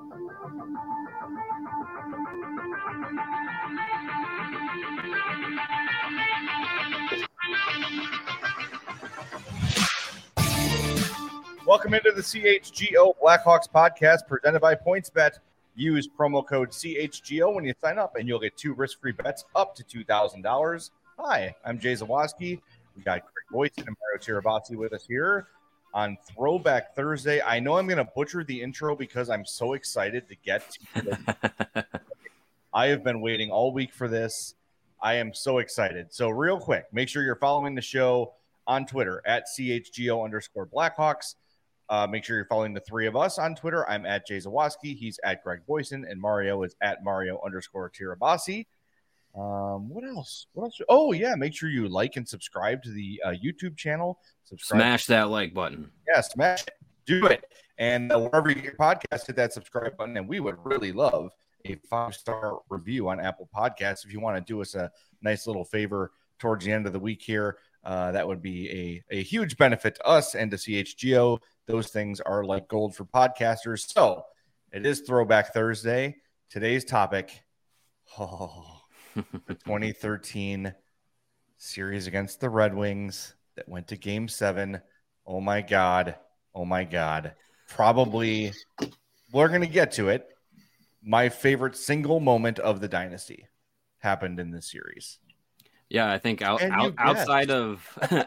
Welcome into the CHGO Blackhawks podcast presented by PointsBet. Use promo code CHGO when you sign up, and you'll get 2 risk-free bets up to $2,000. Hi, I'm Jay Zawaski. We got Greg Boyson and Mario Tirabassi with us here on Throwback Thursday. I know I'm going to butcher the intro because I'm so excited to get to this. I have been waiting all week for this. I am so excited. So real quick, make sure you're following the show on Twitter at CHGO_Blackhawks. Make sure you're following the three of us on Twitter. I'm at Jay Zawaski. He's at Greg Boyson, and Mario is at Mario_Tirabassi. What else? Oh, yeah. Make sure you like and subscribe to the YouTube channel. Smash that like button. Yeah, smash it. Do it. And wherever you get your podcast, hit that subscribe button. And we would really love a 5-star review on Apple Podcasts. If you want to do us a nice little favor towards the end of the week here, that would be a huge benefit to us and to CHGO. Those things are like gold for podcasters. So it is Throwback Thursday. Today's topic, the 2013 series against the Red Wings that went to Game 7. Oh, my God. Probably, we're going to get to it. My favorite single moment of the dynasty happened in this series. Yeah, I think outside of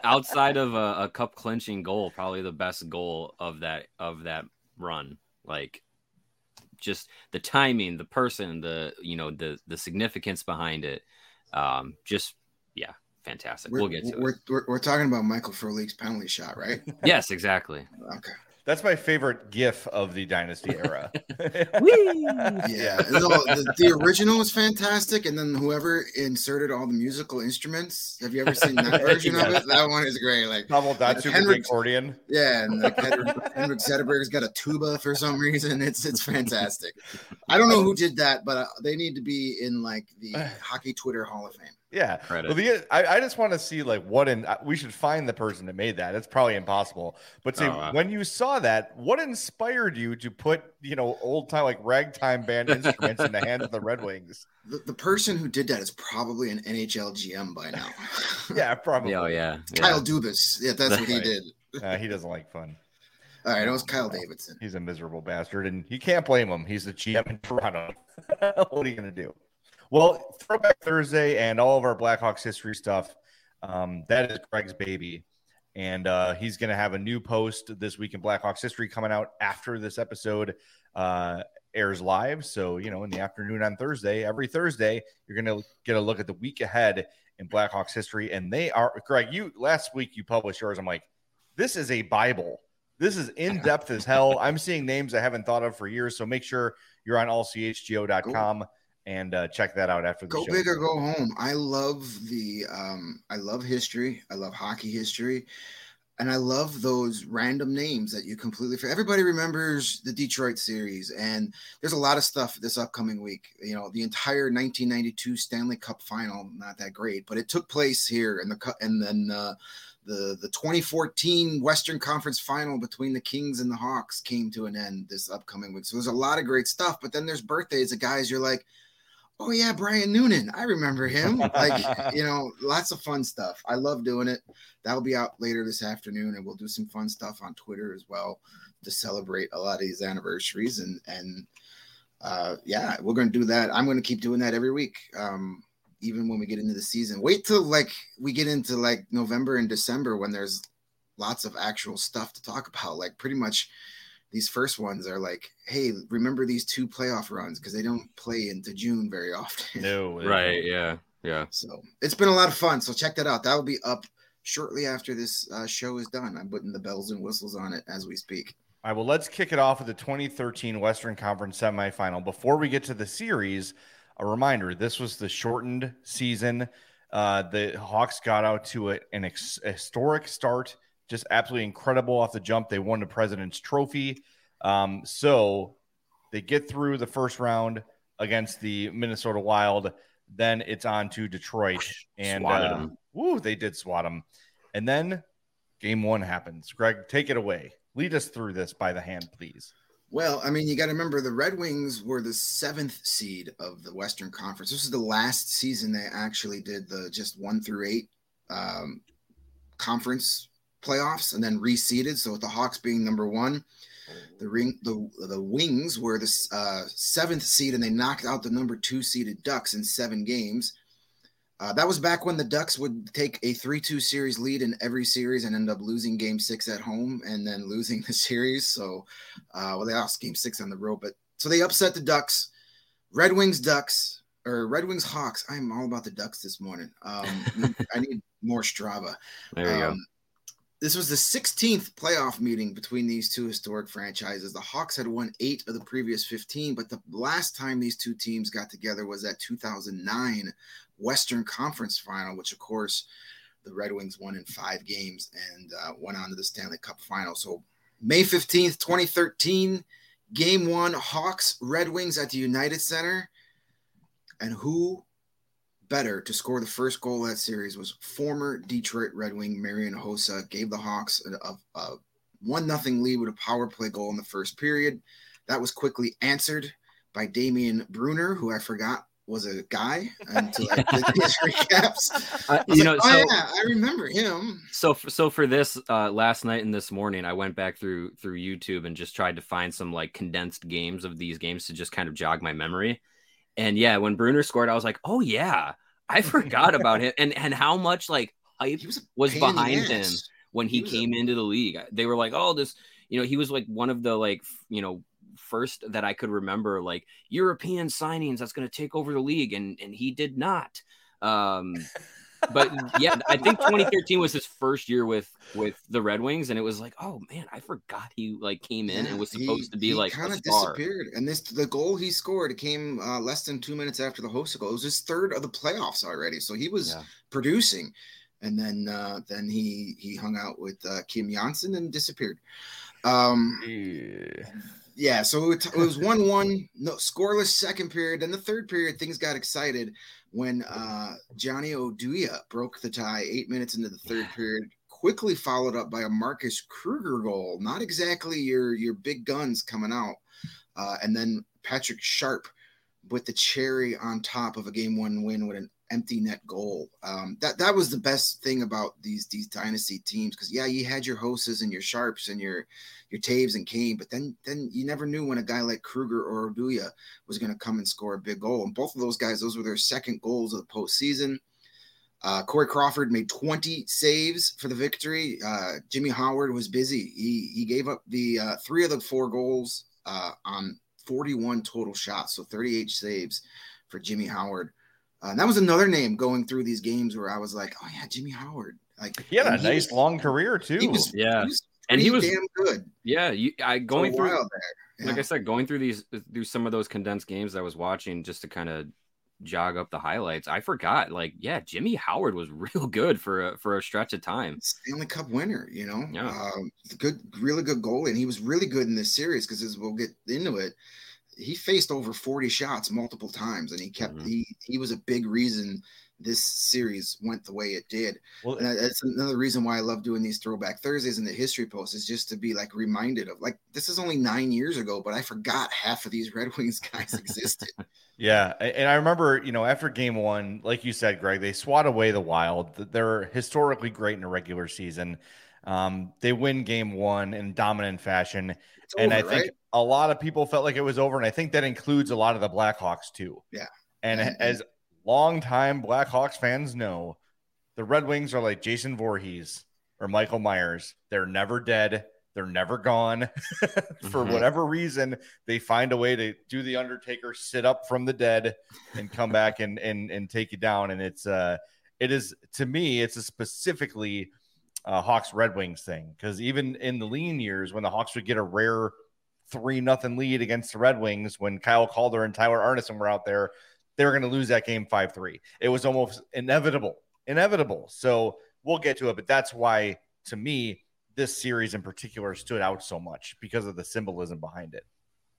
a cup clinching goal, probably the best goal of that run. Like, just the timing, the person, the significance behind it. Fantastic. We'll get to it. We're talking about Michael Frolik's penalty shot, right? Yes, exactly. Okay. That's my favorite GIF of the Dynasty era. Yeah, the original is fantastic, and then whoever inserted all the musical instruments. Have you ever seen that version of it? That one is great. Like Pavel Datsyuk with accordion. Yeah, and like Henrik Zetterberg's got a tuba for some reason. It's fantastic. I don't know who did that, but they need to be in like the Hockey Twitter Hall of Fame. Yeah. Well, I just want to see like we should find the person that made that. It's probably impossible. But when you saw that, what inspired you to put, old time like ragtime band instruments in the hands of the Red Wings? The person who did that is probably an NHL GM by now. Yeah, probably. Oh, yeah. Kyle Dubas. Yeah, that's what he did. He doesn't like fun. All right, it was Kyle Davidson. He's a miserable bastard, and you can't blame him. He's the GM in Toronto. What are you going to do? Well, Throwback Thursday and all of our Blackhawks history stuff, that is Greg's baby. And he's going to have a new post this week in Blackhawks history coming out after this episode airs live. So, in the afternoon on Thursday, every Thursday, you're going to get a look at the week ahead in Blackhawks history. And they are, Greg, last week you published yours. I'm like, this is a Bible. This is in-depth as hell. I'm seeing names I haven't thought of for years. So make sure you're on allchgo.com. And check that out after the show. Go big or go home. I love I love history. I love hockey history. And I love those random names that you completely forget. Everybody remembers the Detroit series. And there's a lot of stuff this upcoming week. The entire 1992 Stanley Cup final, not that great, but it took place here. And then the 2014 Western Conference final between the Kings and the Hawks came to an end this upcoming week. So there's a lot of great stuff. But then there's birthdays of guys you're like, oh, yeah, Brian Noonan. I remember him. Like, lots of fun stuff. I love doing it. That'll be out later this afternoon, and we'll do some fun stuff on Twitter as well to celebrate a lot of these anniversaries. And we're going to do that. I'm going to keep doing that every week, even when we get into the season. Wait till, we get into, November and December when there's lots of actual stuff to talk about. Like, pretty much – these first ones are like, hey, remember these 2 playoff runs because they don't play into June very often. No. Right, yeah. So it's been a lot of fun. So check that out. That will be up shortly after this show is done. I'm putting the bells and whistles on it as we speak. All right, well, let's kick it off with the 2013 Western Conference semifinal. Before we get to the series, a reminder, this was the shortened season. The Hawks got out to an historic start. Just absolutely incredible off the jump. They won the President's Trophy. So they get through the first round against the Minnesota Wild. Then it's on to Detroit. And they did swat them. And then game 1 happens. Greg, take it away. Lead us through this by the hand, please. Well, I mean, you got to remember the Red Wings were the 7th seed of the Western Conference. This is the last season they actually did the just 1 through 8 conference playoffs and then reseeded. So with the Hawks being number 1, the Wings were the 7th seed, and they knocked out the number 2 seeded Ducks in 7 games. That was back when the Ducks would take a 3-2 series lead in every series and end up losing Game 6 at home and then losing the series. So, they lost Game 6 on the road, but so they upset the Ducks. Red Wings Hawks. I'm all about the Ducks this morning. I need more Strava. There you go. This was the 16th playoff meeting between these two historic franchises. The Hawks had won 8 of the previous 15, but the last time these two teams got together was that 2009 Western Conference final, which, of course, the Red Wings won in 5 games and went on to the Stanley Cup final. So May 15th, 2013, Game 1, Hawks, Red Wings at the United Center. And who better to score the first goal of that series was former Detroit Red Wing Marian Hossa. Gave the Hawks a 1-0 lead with a power play goal in the first period. That was quickly answered by Damian Brunner, who I forgot was a guy until I did these recaps. I remember him. So for this last night and this morning, I went back through YouTube and just tried to find some like condensed games of these games to just kind of jog my memory. And yeah, when Brunner scored, I was like, oh yeah, I forgot about him and how much like hype was behind him when he came into the league. They were like, oh, this, he was like one of the like, first that I could remember like European signings that's going to take over the league, and he did not. But yeah, I think 2013 was his first year with the Red Wings, and it was like, oh man, I forgot he like came in and was supposed to be like kind a of star. Disappeared. And the goal he scored came less than 2 minutes after the Hossa goal. It was his 3rd of the playoffs already, so he was producing. And then he hung out with Kim Janssen and disappeared. Yeah, so it was 1-1, no scoreless second period. Then the third period, things got excited when Johnny Oduya broke the tie 8 minutes into the third period, quickly followed up by a Marcus Kruger goal. Not exactly your big guns coming out. And then Patrick Sharp with the cherry on top of a Game 1 win with an empty net goal. That was the best thing about these dynasty teams, because you had your Hossas and your Sharps and your Taves and Kane, but then you never knew when a guy like Kruger or Oduya was going to come and score a big goal. And both of those guys, those were their second goals of the postseason. Corey Crawford made 20 saves for the victory. Jimmy Howard was busy. He gave up the 3 of the 4 goals on 41 total shots, so 38 saves for Jimmy Howard. And that was another name going through these games where I was like, oh yeah, Jimmy Howard. Like he had a nice long career too. He was damn good. Yeah, going through there. Like I said, going through some of those condensed games I was watching just to kind of jog up the highlights. I forgot, like, Jimmy Howard was real good for a stretch of time. Stanley Cup winner, really good goalie, and he was really good in this series because as we'll get into it, he faced over 40 shots multiple times, and he kept he was a big reason this series went the way it did. Well, and that's another reason why I love doing these Throwback Thursdays and the history posts, is just to be like reminded of, like, this is only 9 years ago, but I forgot half of these Red Wings guys existed. Yeah. And I remember, after Game 1, like you said, Greg, they swat away the Wild. They're historically great in a regular season. They win Game 1 in dominant fashion. I think a lot of people felt like it was over. And I think that includes a lot of the Blackhawks too. Yeah. And as longtime Blackhawks fans know, the Red Wings are like Jason Voorhees or Michael Myers. They're never dead. They're never gone. For whatever reason, they find a way to do the Undertaker, sit up from the dead, and come back and take you down. And it is to me, it's a specifically Hawks Red Wings thing, because even in the lean years when the Hawks would get a rare 3-0 lead against the Red Wings, when Kyle Calder and Tyler Arneson were out there, they were going to lose that game 5-3. It was almost inevitable. So we'll get to it, but that's why, to me, this series in particular stood out so much, because of the symbolism behind it.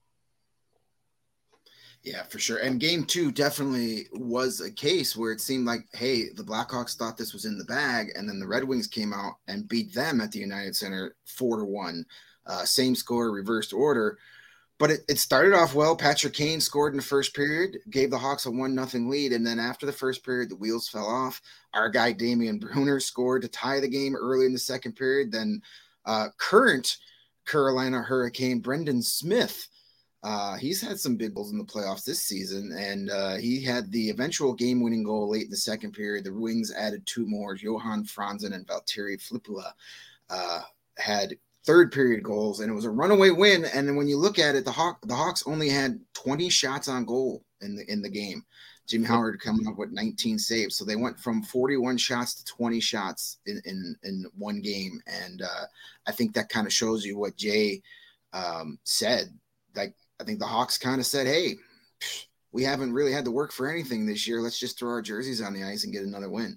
Yeah, for sure. And Game 2 definitely was a case where it seemed like, hey, the Blackhawks thought this was in the bag, and then the Red Wings came out and beat them at the United Center 4-1. Same score, reversed order. But it started off well. Patrick Kane scored in the first period, gave the Hawks a 1-0 lead. And then after the first period, the wheels fell off. Our guy, Damian Brunner, scored to tie the game early in the second period. Then current Carolina Hurricane Brendan Smith, he's had some big goals in the playoffs this season. And he had the eventual game-winning goal late in the second period. The Wings added 2 more. Johan Franzen and Valtteri Filppula had third period goals, and it was a runaway win. And then when you look at it, the Hawks only had 20 shots on goal in the game. Jimmy Howard coming up with 19 saves, so they went from 41 shots to 20 shots in one game. And I think that kind of shows you what Jay said. Like, I think the Hawks kind of said, "Hey, we haven't really had to work for anything this year. Let's just throw our jerseys on the ice and get another win."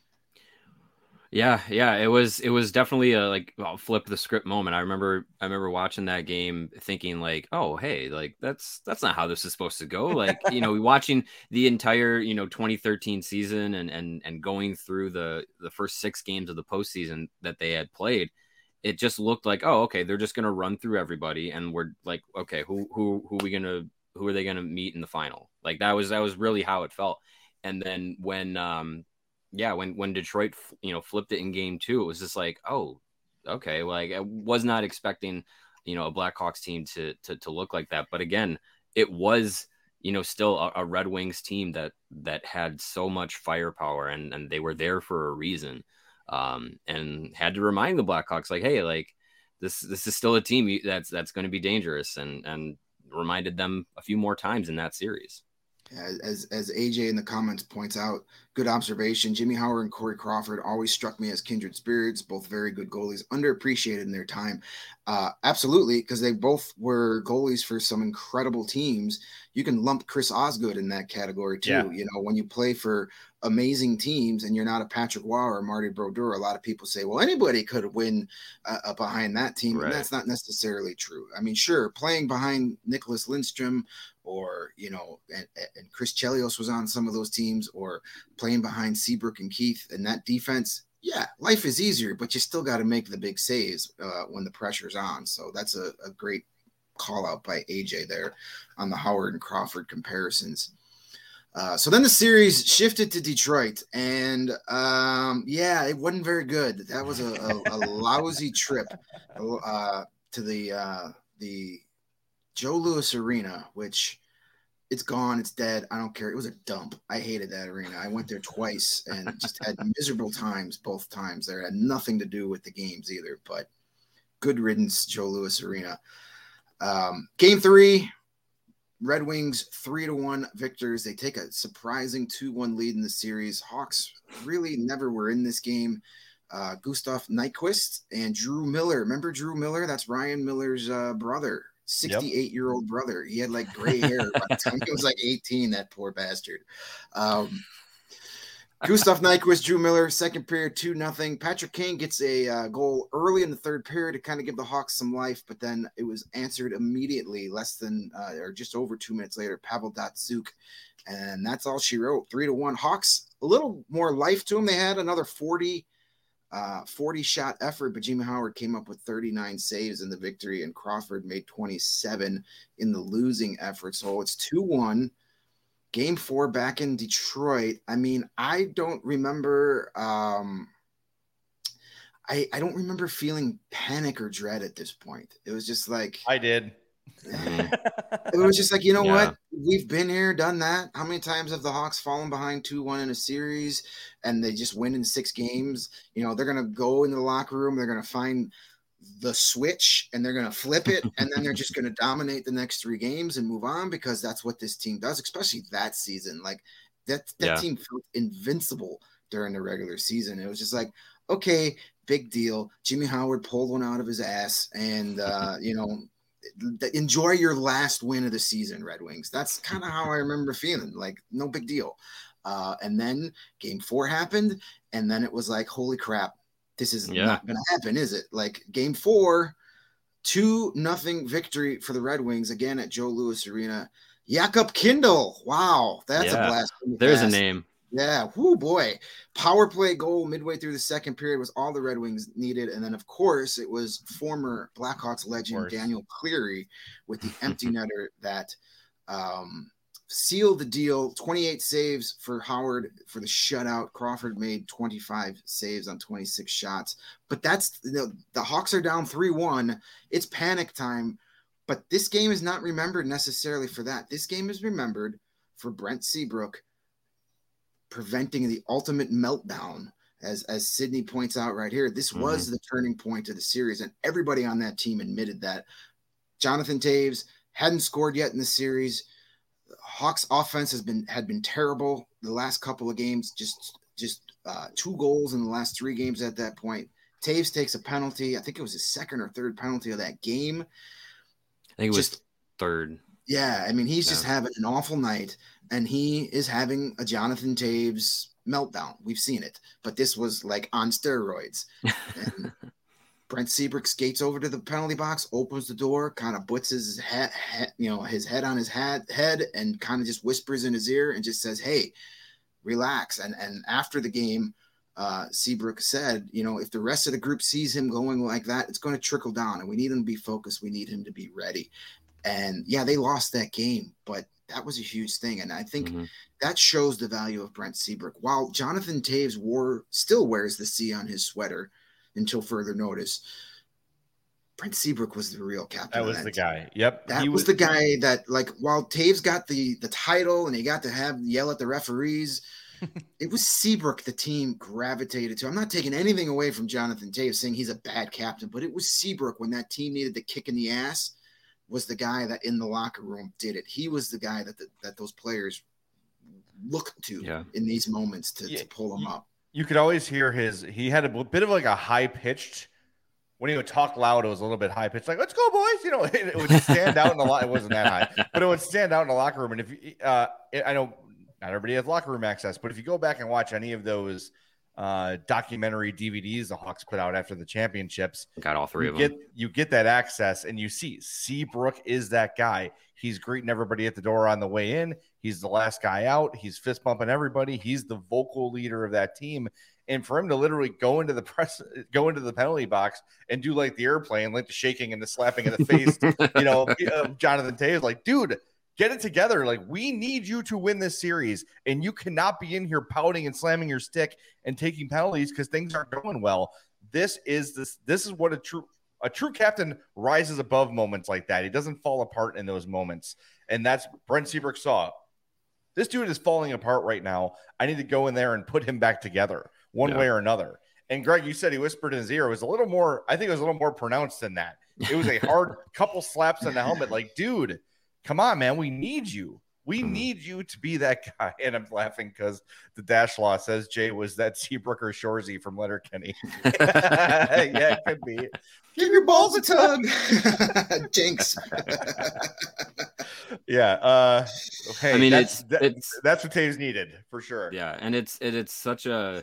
Yeah, it was definitely a flip the script moment. I remember watching that game thinking like, oh, hey, like that's not how this is supposed to go. Like, watching the entire 2013 season and going through the first 6 games of the postseason that they had played, it just looked like, oh, okay, they're just gonna run through everybody, and we're like, okay, who are they gonna meet in the final? Like that was really how it felt. And then when Detroit, flipped it in game 2, it was just like, oh, okay. Like I was not expecting, a Blackhawks team to look like that. But again, it was, still a Red Wings team that had so much firepower and they were there for a reason. And had to remind the Blackhawks like, hey, like this is still a team that's going to be dangerous, and reminded them a few more times in that series. As AJ in the comments points out, good observation. Jimmy Howard and Corey Crawford always struck me as kindred spirits, both very good goalies, underappreciated in their time. Absolutely, because they both were goalies for some incredible teams. You can lump Chris Osgood in that category too. Yeah. When you play for amazing teams and you're not a Patrick Waugh or Marty Brodeur, a lot of people say, well, anybody could win behind that team. Right. And that's not necessarily true. I mean, sure, playing behind Nicholas Lindstrom or, and Chris Chelios was on some of those teams, or playing behind Seabrook and Keith and that defense. Yeah, life is easier, but you still got to make the big saves when the pressure's on. So that's a great call out by AJ there on the Howard and Crawford comparisons. So then the series shifted to Detroit, and it wasn't very good. That was a lousy trip to the Joe Louis Arena, which it's gone, it's dead. I don't care. It was a dump. I hated that arena. I went there twice and just had miserable times both times there. It had nothing to do with the games either, but good riddance, Joe Louis Arena. Game 3, Red Wings 3-1 victors. They take a surprising 2-1 lead in the series. Hawks really never were in this game. Gustav Nyquist and Drew Miller. Remember Drew Miller? That's Ryan Miller's brother. 68-year-old brother. He had like gray hair by the time he was like 18, that poor bastard. Gustav Nyquist, Drew Miller, second period, 2-0. Patrick Kane gets a goal early in the third period to kind of give the Hawks some life, but then it was answered immediately less than or just over 2 minutes later. Pavel Datsyuk, and that's all she wrote. 3-1. Hawks, a little more life to them. They had another 40 shot effort, but Jimmy Howard came up with 39 saves in the victory, and Crawford made 27 in the losing effort. So it's 2-1. Game 4 back in Detroit. I mean, I don't remember. I don't remember feeling panic or dread at this point. It was just like I did. It was just like, what? We've been here, done that. How many times have the Hawks fallen behind 2-1 in a series and they just win in 6 games? They're going to go into the locker room. They're going to find the switch and they're going to flip it. And then they're just going to dominate the next 3 games and move on, because that's what this team does, especially that season. Like that team felt invincible during the regular season. It was just like, okay, big deal. Jimmy Howard pulled one out of his ass and, enjoy your last win of the season, Red Wings. That's kind of how I remember feeling. Like, no big deal. And then game 4 happened, and then it was like, holy crap, this is not going to happen, is it? Like game 4, 2-0 victory for the Red Wings, again at Joe Louis Arena. Jakob Kindl. Wow, that's a blast. There's a name. Yeah, whoo boy. Power play goal midway through the second period was all the Red Wings needed. And then, of course, it was former Blackhawks legend Daniel Cleary with the empty netter that sealed the deal. 28 saves for Howard for the shutout. Crawford made 25 saves on 26 shots. But that's the Hawks are down 3-1. It's panic time. But this game is not remembered necessarily for that. This game is remembered for Brent Seabrook preventing the ultimate meltdown, as Sydney points out right here. This was the turning point of the series, and everybody on that team admitted that. Jonathan Toews hadn't scored yet in the series. Hawks offense had been terrible the last couple of games, just 2 goals in the last 3 games at that point. Toews takes a penalty. I think it was his second or third penalty of that game. I think it was third. Yeah, I mean, he's just having an awful night, and he is having a Jonathan Toews meltdown. We've seen it, but this was like on steroids. And Brent Seabrook skates over to the penalty box, opens the door, kind of puts his his head on his head, and kind of just whispers in his ear and just says, "Hey, relax." And after the game, Seabrook said, if the rest of the group sees him going like that, it's going to trickle down, and we need him to be focused. We need him to be ready. And yeah, they lost that game, but that was a huge thing. And I think that shows the value of Brent Seabrook. While Jonathan Toews still wears the C on his sweater until further notice, Brent Seabrook was the real captain. That was the guy. Yep. That was the guy that, like, while Toews got the title and he got to yell at the referees, it was Seabrook the team gravitated to. I'm not taking anything away from Jonathan Toews saying he's a bad captain, but it was Seabrook when that team needed the kick in the ass. Was the guy that in the locker room did it. He was the guy that those players looked to in these moments to pull him up. You could always hear he had a bit of like a high pitched, when he would talk loud, it was a little bit high pitched, like, "Let's go, boys." It would stand out in the lot. It wasn't that high, but it would stand out in the locker room. And if I know not everybody has locker room access, but if you go back and watch any of those documentary DVDs the Hawks put out after the championships, got all 3 of them. You get that access, and you see Seabrook is that guy. He's greeting everybody at the door on the way in. He's the last guy out. He's fist bumping everybody. He's the vocal leader of that team. And for him to literally go into the penalty box and do like the airplane, like the shaking and the slapping in the face, Jonathan Toews, like, dude, get it together. Like, we need you to win this series, and you cannot be in here pouting and slamming your stick and taking penalties because things aren't going well. This is what a true captain rises above moments like that. He doesn't fall apart in those moments. And that's Brent Seabrook saw. This dude is falling apart right now. I need to go in there and put him back together one way or another. And Greg, you said he whispered in his ear. It was a little more pronounced than that. It was a hard couple slaps on the helmet. Like, dude, come on, man. We need you. We need you to be that guy. And I'm laughing because the Dash Law says Jay was that Seabrook or Shorzy from Letterkenny. Yeah, it could be. Give your balls a tug. Jinx. Yeah. Hey, I mean, that's what Toews needed for sure. Yeah, and it's such a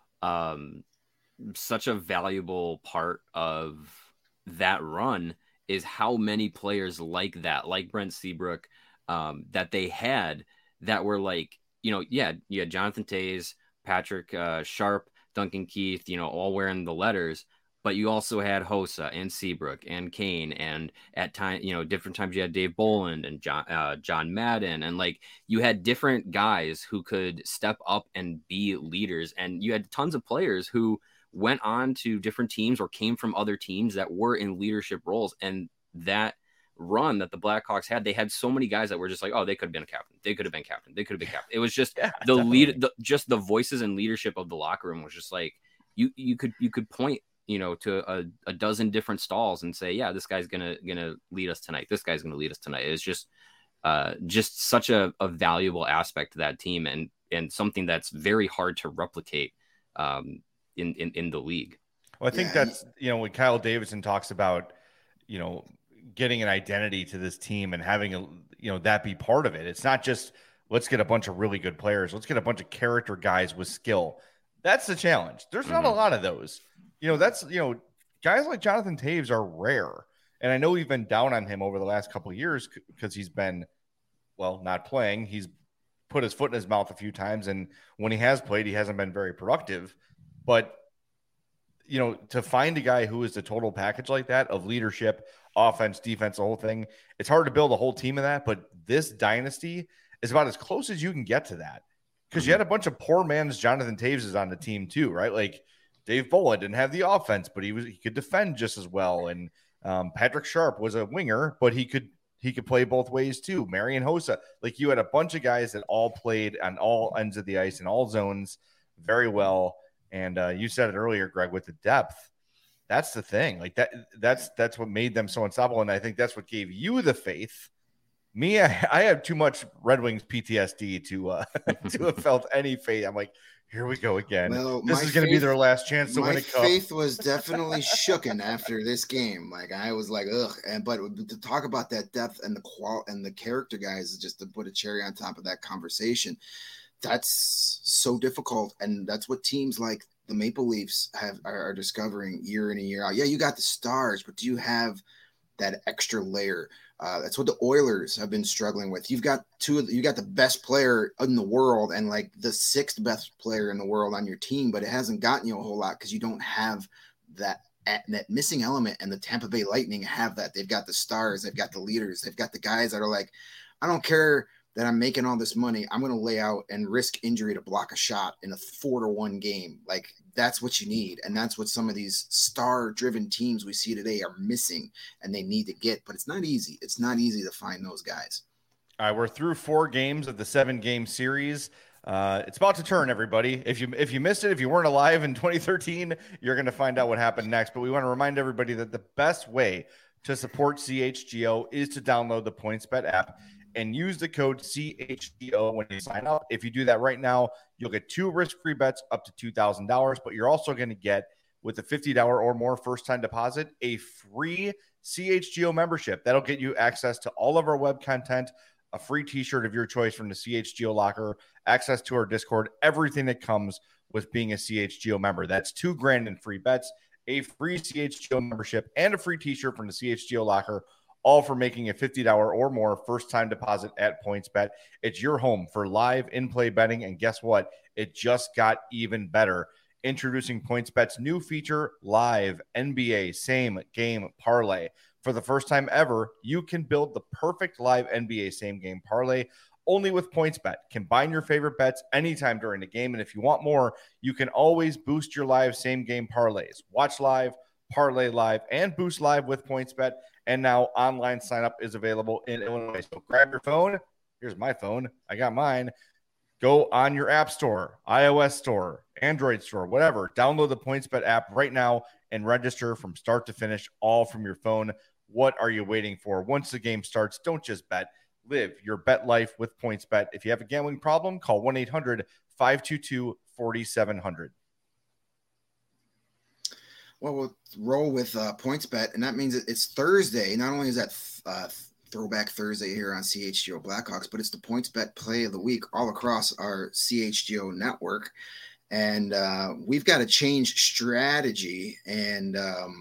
valuable part of that run is how many players like that, like Brent Seabrook, that they had that were like, you had Jonathan Toews, Patrick Sharp, Duncan Keith, all wearing the letters, but you also had Hossa and Seabrook and Kane, and at time, different times you had Dave Boland and John Madden, and like you had different guys who could step up and be leaders, and you had tons of players who went on to different teams or came from other teams that were in leadership roles. And that run that the Blackhawks had, they had so many guys that were just like, oh, they could have been a captain. They could have been captain. They could have been captain. It was just just the voices and leadership of the locker room was just like, you could point, to a dozen different stalls and say, yeah, this guy's going to lead us tonight. This guy's going to lead us tonight. It's just such a valuable aspect to that team and something that's very hard to replicate in the league. Well, I think that's, when Kyle Davidson talks about, getting an identity to this team and having that be part of it. It's not just, let's get a bunch of really good players. Let's get a bunch of character guys with skill. That's the challenge. There's not a lot of those, guys like Jonathan Toews are rare. And I know we've been down on him over the last couple of years because he's been, not playing. He's put his foot in his mouth a few times. And when he has played, he hasn't been very productive. But, you know, to find a guy who is the total package like that of leadership, offense, defense, the whole thing, it's hard to build a whole team of that. But this dynasty is about as close as you can get to that. Because you had a bunch of poor man's Jonathan Taveses on the team too, right? Like Dave Bowen didn't have the offense, but he could defend just as well. And Patrick Sharp was a winger, but he could play both ways too. Marian Hossa, like you had a bunch of guys that all played on all ends of the ice in all zones very well. And you said it earlier, Greg, with the depth. That's the thing. Like that's what made them so unstoppable. And I think that's what gave you the faith. Me, I have too much Red Wings PTSD to have felt any faith. I'm like, here we go again. Well, this is going to be their last chance to win a cup. My faith was definitely shooken after this game. Like I was like, ugh. But to talk about that depth and the character guys, just to put a cherry on top of that conversation, that's so difficult. And that's what teams like the Maple Leafs are discovering year in and year out. Yeah, you got the stars, but do you have that extra layer? That's what the Oilers have been struggling with. You got the best player in the world and like the sixth best player in the world on your team, but it hasn't gotten you a whole lot because you don't have that missing element. And the Tampa Bay Lightning have that. They've got the stars, they've got the leaders, they've got the guys that are like, I don't care that I'm making all this money. I'm going to lay out and risk injury to block a shot in a 4-1 game. Like that's what you need. And that's what some of these star driven teams we see today are missing and they need to get, but it's not easy. It's not easy to find those guys. All right. We're through 4 games of the 7-game series. It's about to turn, everybody. If you missed it, if you weren't alive in 2013, you're going to find out what happened next. But we want to remind everybody that the best way to support CHGO is to download the PointsBet app and use the code CHGO when you sign up. If you do that right now, you'll get 2 risk-free bets up to $2,000, but you're also going to get, with a $50 or more first-time deposit, a free CHGO membership. That'll get you access to all of our web content, a free t-shirt of your choice from the CHGO locker, access to our Discord, everything that comes with being a CHGO member. That's $2,000 in free bets, a free CHGO membership, and a free t-shirt from the CHGO locker, all for making a $50 or more first-time deposit at PointsBet. It's your home for live in-play betting, and guess what? It just got even better. Introducing PointsBet's new feature, Live NBA Same Game Parlay. For the first time ever, you can build the perfect live NBA Same Game Parlay only with PointsBet. Combine your favorite bets anytime during the game, and if you want more, you can always boost your live Same Game Parlays. Watch live, parlay live, and boost live with PointsBet. And now online sign-up is available in Illinois. So grab your phone. Here's my phone. I got mine. Go on your app store, iOS store, Android store, whatever. Download the PointsBet app right now and register from start to finish, all from your phone. What are you waiting for? Once the game starts, don't just bet. Live your bet life with PointsBet. If you have a gambling problem, call 1-800-522-4700. Well, we'll roll with PointsBet, and that means it's Thursday. Not only is that Throwback Thursday here on CHGO Blackhawks, but it's the PointsBet play of the week all across our CHGO network. And we've got to change strategy, and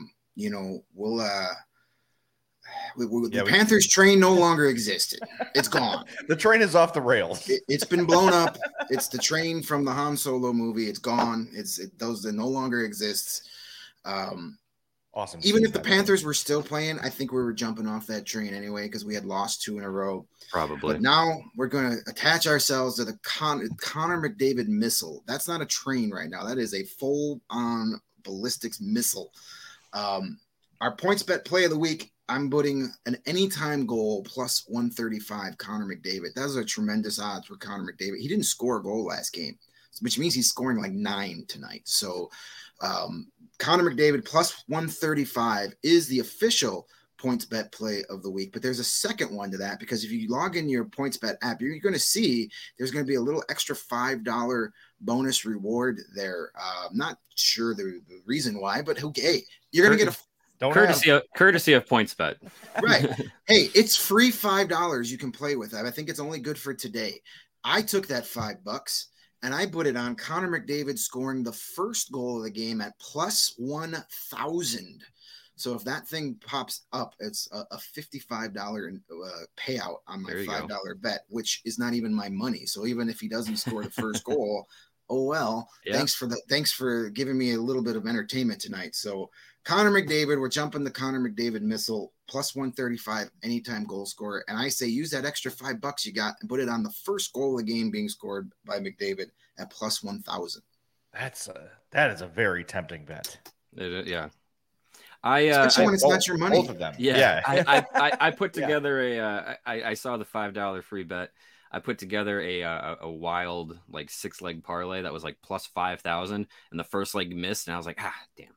the Panthers train no longer existed. It's gone. The train is off the rails. It's been blown up. It's the train from the Han Solo movie. It's gone. Those that no longer exists. Awesome. Even if the Panthers were still playing, I think we were jumping off that train anyway because we had lost 2 in a row. Probably. But now we're going to attach ourselves to the Connor McDavid missile. That's not a train right now. That is a full-on ballistics missile. Our PointsBet play of the week, I'm putting an anytime goal plus 135 Connor McDavid. Those are tremendous odds for Connor McDavid. He didn't score a goal last game, which means he's scoring like 9 tonight. So Connor McDavid plus 135 is the official PointsBet play of the week. But there's a second one to that, because if you log in your PointsBet app, you're going to see there's going to be a little extra $5 bonus reward there. I'm not sure the reason why, but okay, you're going to get a courtesy of PointsBet. Right. Hey, it's free $5 you can play with. I think it's only good for today. I took that $5 and I put it on Connor McDavid scoring the first goal of the game at plus 1,000. So if that thing pops up, it's a $55 payout on my $5 bet, which is not even my money. So even if he doesn't score the first goal, oh well. Yeah. Thanks for giving me a little bit of entertainment tonight. So Connor McDavid, we're jumping the Connor McDavid missile plus 135 anytime goal scorer. And I say use that extra $5 you got and put it on the first goal of the game being scored by McDavid at plus 1,000. That is a very tempting bet. Yeah. Especially when it's not your money. Both of them. Yeah. I put together I saw the $5 free bet. I put together a wild like 6-leg parlay that was like plus 5,000, and the first leg missed, and I was like, damn.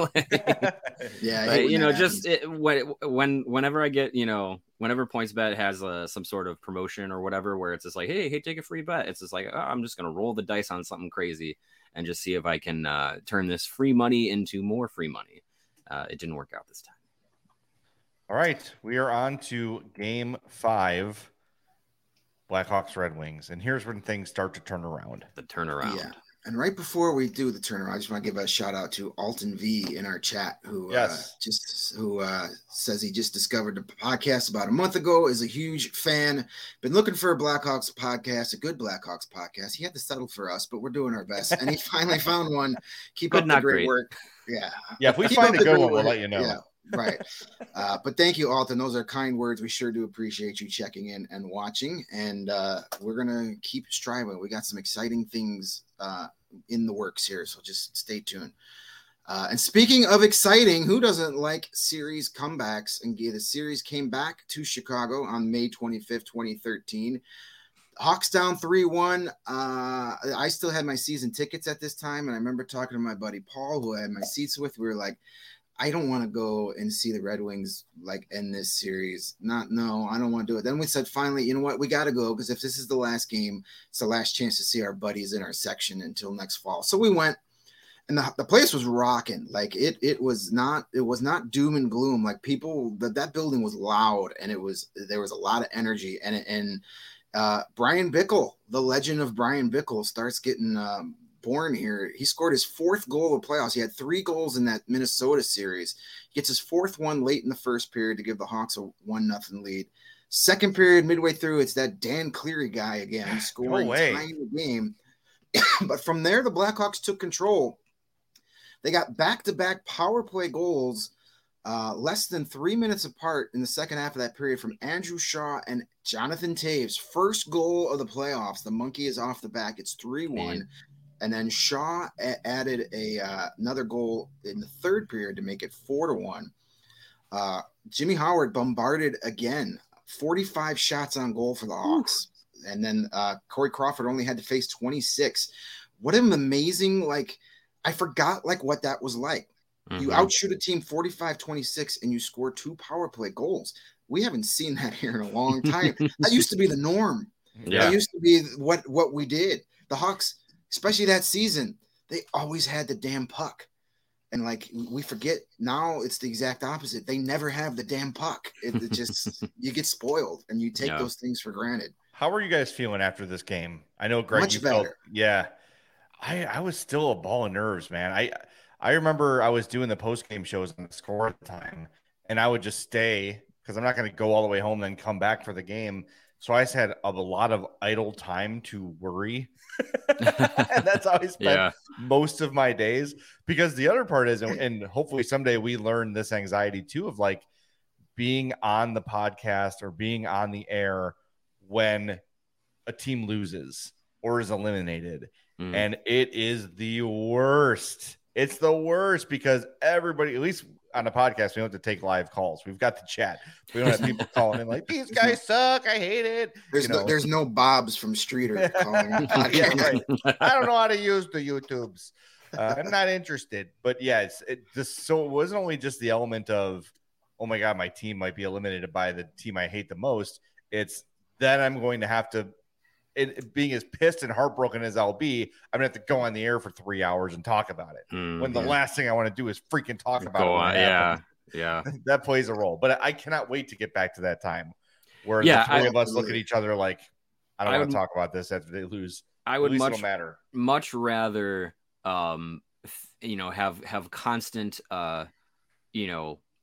Yeah, but, whenever I get, whenever PointsBet has some sort of promotion or whatever, where it's just like, hey, take a free bet. It's just like, I'm just gonna roll the dice on something crazy and just see if I can turn this free money into more free money. It didn't work out this time. All right, we are on to Game 5. Blackhawks Red Wings, and here's when things start to turn around. The turnaround. Yeah. And right before we do the turnaround, I just want to give a shout out to Alton V in our chat, who says he just discovered the podcast about a month ago, is a huge fan. Been looking for a Blackhawks podcast, a good Blackhawks podcast. He had to settle for us, but we're doing our best, and he finally found one. Keep up the great work. Yeah. If we find a good one, we'll let you know. Yeah. Right. But thank you, Alton. Those are kind words. We sure do appreciate you checking in and watching. And we're going to keep striving. We got some exciting things in the works here. So just stay tuned. And speaking of exciting, who doesn't like series comebacks? And the series came back to Chicago on May 25th, 2013. Hawks down 3-1. I still had my season tickets at this time. And I remember talking to my buddy Paul, who I had my seats with. We were like, I don't want to go and see the Red Wings like end this series. I don't want to do it. Then we said, finally, you know what? We got to go, because if this is the last game, it's the last chance to see our buddies in our section until next fall. So we went, and the place was rocking. Like it was not doom and gloom. Like people, that building was loud, and there was a lot of energy. And Brian Bickle, the legend of Brian Bickle, starts getting born here. He scored his 4th goal of playoffs. He had 3 goals in that Minnesota series. He gets his 4th one late in the first period to give the Hawks a 1-0 lead. Second period, midway through, it's that Dan Cleary guy again scoring, tying the game. But from there, the Blackhawks took control. They got back-to-back power play goals less than 3 minutes apart in the second half of that period from Andrew Shaw and Jonathan Toews. First goal of the playoffs. The monkey is off the back. It's 3-1. And then Shaw added another goal in the third period to make it 4-1. Jimmy Howard bombarded again, 45 shots on goal for the Hawks. And then Corey Crawford only had to face 26. What an amazing, I forgot what that was like. Mm-hmm. You outshoot a team 45-26 and you score 2 power play goals. We haven't seen that here in a long time. That used to be the norm. Yeah. That used to be what we did. The Hawks, especially that season, they always had the damn puck. And we forget now, it's the exact opposite. They never have the damn puck. It just, you get spoiled and you take those things for granted. How are you guys feeling after this game? I know, Greg, much better. I was still a ball of nerves, man. I remember I was doing the post-game shows on the Score at the time, and I would just stay because I'm not going to go all the way home and then come back for the game. So I just had a lot of idle time to worry. And that's how I spent most of my days, because the other part is, and hopefully someday we learn this anxiety too, of being on the podcast or being on the air when a team loses or is eliminated. And it is the worst. It's the worst because everybody, at least on a podcast, we don't have to take live calls. We've got the chat. We don't have people calling in these guys suck. I hate it. There's no Bobs from Streeter calling. Right. I don't know how to use the YouTubes. I'm not interested. But so it wasn't only just the element of, oh my God, my team might be eliminated by the team I hate the most. It's then I'm going to have to, being as pissed and heartbroken as I'll be, I'm going to have to go on the air for 3 hours and talk about it. When the last thing I want to do is freaking talk about it. Yeah. That plays a role. But I cannot wait to get back to that time where the three of us look at each other like, I don't want to talk about this after they lose. I would much rather, have constant,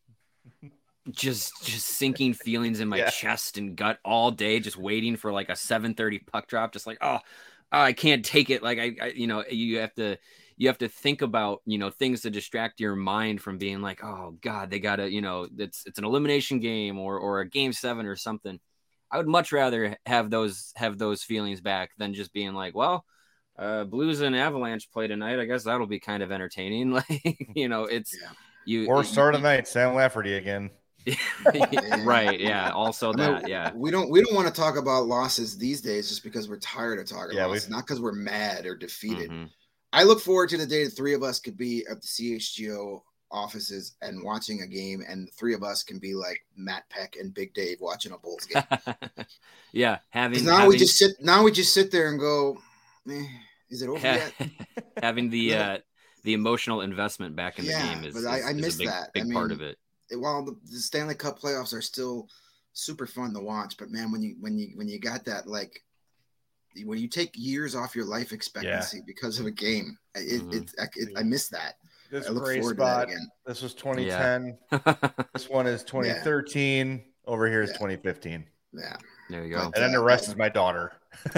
just sinking feelings in my chest and gut all day, just waiting for like a 7:30 puck drop, just like, oh, I can't take it. Like I you have to think about, things to distract your mind from being like, oh God, they gotta, it's an elimination game or a game 7 or something. I would much rather have those feelings back than just being like, well, Blues and Avalanche play tonight. I guess that'll be kind of entertaining. Like, it's start of the night, Sam Lafferty again. Right. Yeah. Also that. Yeah. We don't want to talk about losses these days just because we're tired of talking about losses, not because we're mad or defeated. Mm-hmm. I look forward to the day the three of us could be at the CHGO offices and watching a game, and the three of us can be like Matt Peck and Big Dave watching a Bulls game. Yeah. We just sit there and go, is it over yet? Having the emotional investment back in the game is I miss a big, that. big part of it. While the Stanley Cup playoffs are still super fun to watch, but man, when you got that, like when you take years off your life expectancy because of a game, I miss that. This I look gray forward spot. to that again. This was 2010. This one is 2013. Yeah. Over here is 2015. Yeah, there you go. And then the rest is my daughter.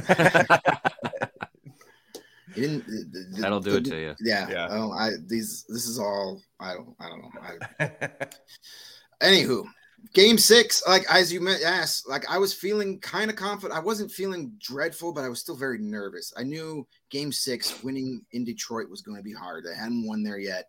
That'll do it to you. Yeah. This is all. I don't know. Anywho, game 6. Like as you asked, like I was feeling kind of confident. I wasn't feeling dreadful, but I was still very nervous. I knew game 6 winning in Detroit was going to be hard. They hadn't won there yet.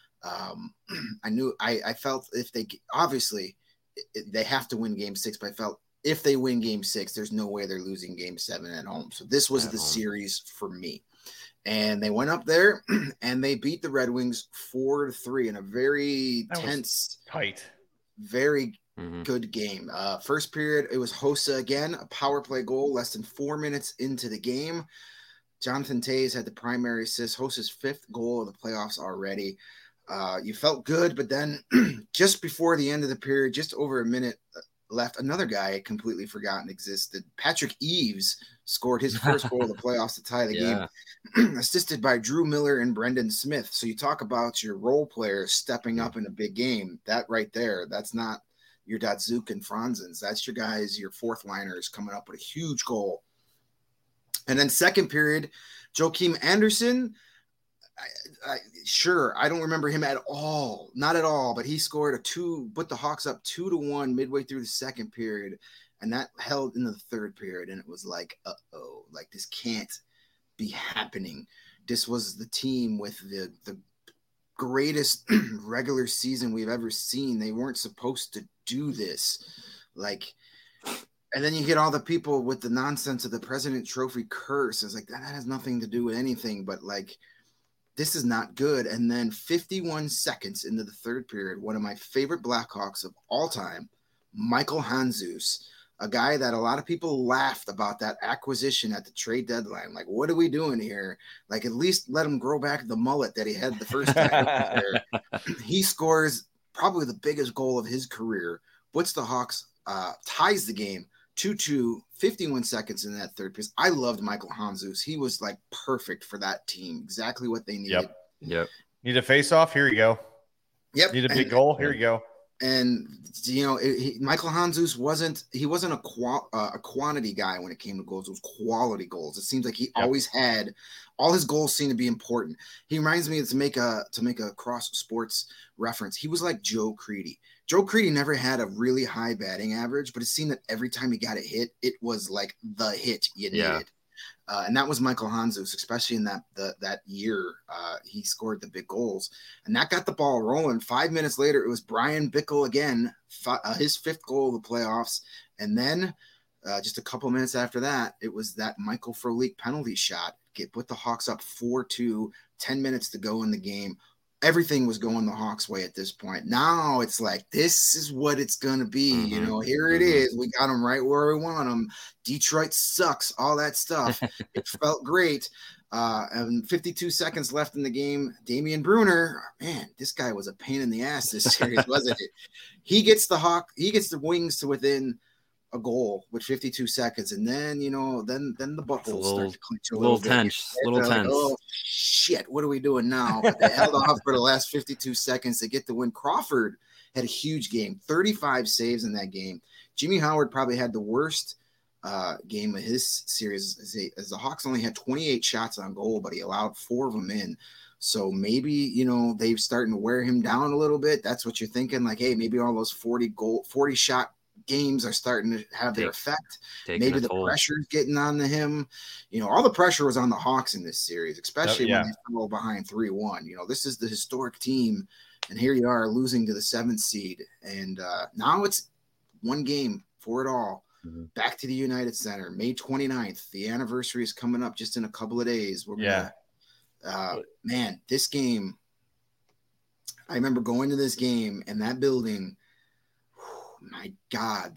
I felt if they obviously they have to win game 6, but I felt if they win game 6, there's no way they're losing game 7 at home. So this was the series for me. And they went up there and they beat the Red Wings 4-3 in a very tense, tight, very good game. First period, it was Hossa again, a power play goal, less than 4 minutes into the game. Jonathan Toews had the primary assist, Hossa's 5th goal of the playoffs already. You felt good, but then just before the end of the period, just over a minute left, another guy I completely forgotten existed. Patrick Eaves scored his first goal of the playoffs to tie the game, assisted by Drew Miller and Brendan Smith. So you talk about your role players stepping up in a big game. That right there, that's not your Datsuk and Franzens. That's your guys, your fourth liners coming up with a huge goal. And then second period, Joakim Anderson, I don't remember him at all. Not at all, but he scored put the Hawks up 2-1 midway through the second period, and that held into the third period, and it was like, uh-oh, like this can't be happening. This was the team with the greatest regular season we've ever seen. They weren't supposed to do this. Like, and then you get all the people with the nonsense of the President Trophy curse. It's like, that has nothing to do with anything, but like, this is not good. And then 51 seconds into the third period, one of my favorite Blackhawks of all time, Michael Handzus, a guy that a lot of people laughed about that acquisition at the trade deadline. Like, what are we doing here? Like, at least let him grow back the mullet that he had the first time. He scores probably the biggest goal of his career, puts the Hawks, ties the game 2-2, 51 seconds in that third piece. I loved Michael Handzus. He was like perfect for that team. Exactly what they needed. Yep. Need a face off? Here you go. Yep. Need a big goal? Here you go. And Michael Handzus wasn't a quantity guy when it came to goals. It was quality goals. It seems like he always had all his goals seem to be important. He reminds me to make a cross sports reference. He was like Joe Crede. Joe Crede never had a really high batting average, but it seemed that every time he got a hit, it was like the hit you needed. And that was Michael Handzus, especially in that year. He scored the big goals, and that got the ball rolling. 5 minutes later, it was Brian Bickle again, his 5th goal of the playoffs. And then just a couple minutes after that, it was that Michael Frolik penalty shot. Put the Hawks up 4-2, 10 minutes to go in the game. Everything was going the Hawks' way at this point. Now it's like, this is what it's going to be. Here it is. We got them right where we want them. Detroit sucks, all that stuff. It felt great. And 52 seconds left in the game. Damian Brunner, man, this guy was a pain in the ass this series, wasn't it? He gets the Wings to within a goal with 52 seconds, and then then the buckles start to clinch a little tense. Like, oh shit, what are we doing now? But they held off for the last 52 seconds to get the win. Crawford had a huge game, 35 saves in that game. Jimmy Howard probably had the worst game of his series as the Hawks only had 28 shots on goal, but he allowed 4 of them in. So maybe, they're starting to wear him down a little bit. That's what you're thinking. Like, hey, maybe all those 40 shot games are starting to have their effect. Maybe the pressure's getting on to him. All the pressure was on the Hawks in this series, especially when they fell behind 3-1. This is the historic team, and here you are losing to the 7th seed. And now it's one game for it all. Mm-hmm. Back to the United Center, May 29th. The anniversary is coming up just in a couple of days. Man, this game, I remember going to this game and that building, my God,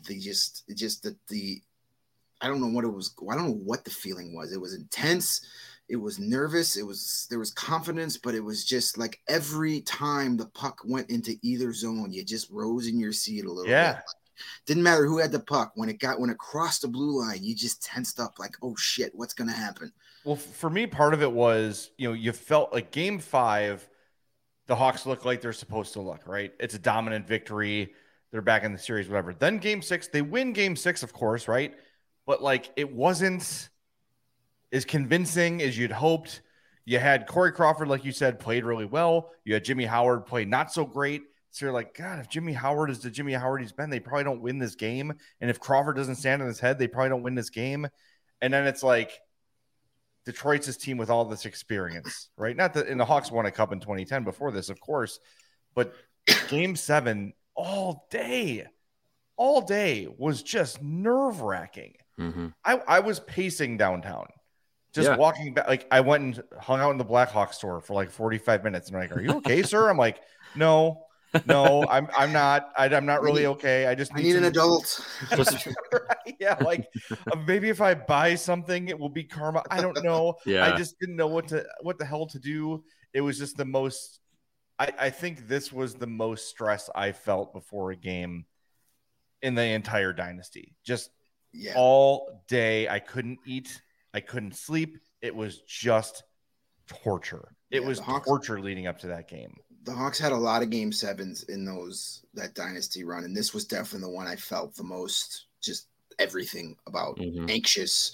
I don't know what it was. I don't know what the feeling was. It was intense. It was nervous. There was confidence, but it was just like every time the puck went into either zone, you just rose in your seat a little bit. Didn't matter who had the puck. When it crossed the blue line, you just tensed up like, oh shit, what's going to happen? Well, for me, part of it was, you felt like Game 5, the Hawks look like they're supposed to look, right? It's a dominant victory. They're back in the series, whatever. Then Game 6, they win Game 6, of course, right? But like, it wasn't as convincing as you'd hoped. You had Corey Crawford, like you said, played really well. You had Jimmy Howard play not so great. So you're like, God, if Jimmy Howard is the Jimmy Howard he's been, they probably don't win this game. And if Crawford doesn't stand on his head, they probably don't win this game. And then it's like, Detroit's this team with all this experience, right? Not that, and the Hawks won a cup in 2010 before this, of course, but Game 7 all day was just nerve-wracking. Mm-hmm. I was pacing downtown, just walking back. Like, I went and hung out in the Blackhawks store for like 45 minutes. And I'm like, "Are you okay, sir?" I'm like, No, I'm not. I'm not really okay. I need an adult. Yeah, like maybe if I buy something, it will be karma. I don't know. I just didn't know what the hell to do. It was just the most. I think this was the most stress I felt before a game in the entire dynasty. Just all day, I couldn't eat. I couldn't sleep. It was just torture. It was torture leading up to that game. The Hawks had a lot of Game 7s in that dynasty run, and this was definitely the one I felt the most just everything about. Mm-hmm. Anxious,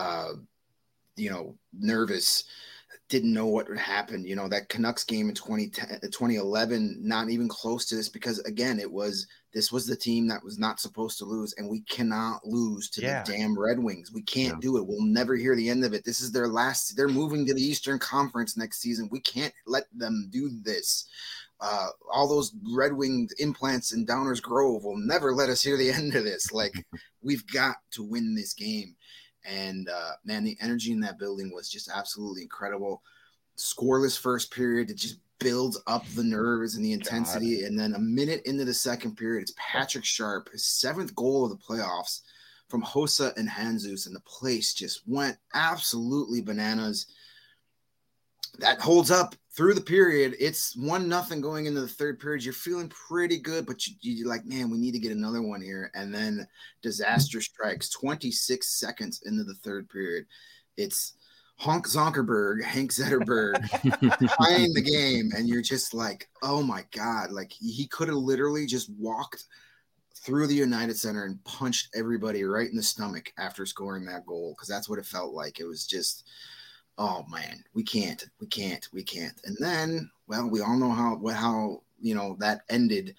nervous, didn't know what would happen. That Canucks game in 2011, not even close to this, because again, this was the team that was not supposed to lose, and we cannot lose to the damn Red Wings. We can't do it. We'll never hear the end of it. This is their last. They're moving to the Eastern Conference next season. We can't let them do this. All those Red Wing implants in Downers Grove will never let us hear the end of this. Like, we've got to win this game. And man, the energy in that building was just absolutely incredible. Scoreless first period, it just builds up the nerves and the intensity. And then a minute into the second period, it's Patrick Sharp, his 7th goal of the playoffs from Hossa and Handzus, and the place just went absolutely bananas. That holds up through the period. It's 1-0 going into the third period. You're feeling pretty good, but you're like, man, we need to get another one here. And then disaster strikes 26 seconds into the third period. It's Hank Zetterberg tying the game. And you're just like, oh my God. Like, he could have literally just walked through the United Center and punched everybody right in the stomach after scoring that goal. Cause that's what it felt like. It was just, oh man, we can't. And then, well, we all know how that ended.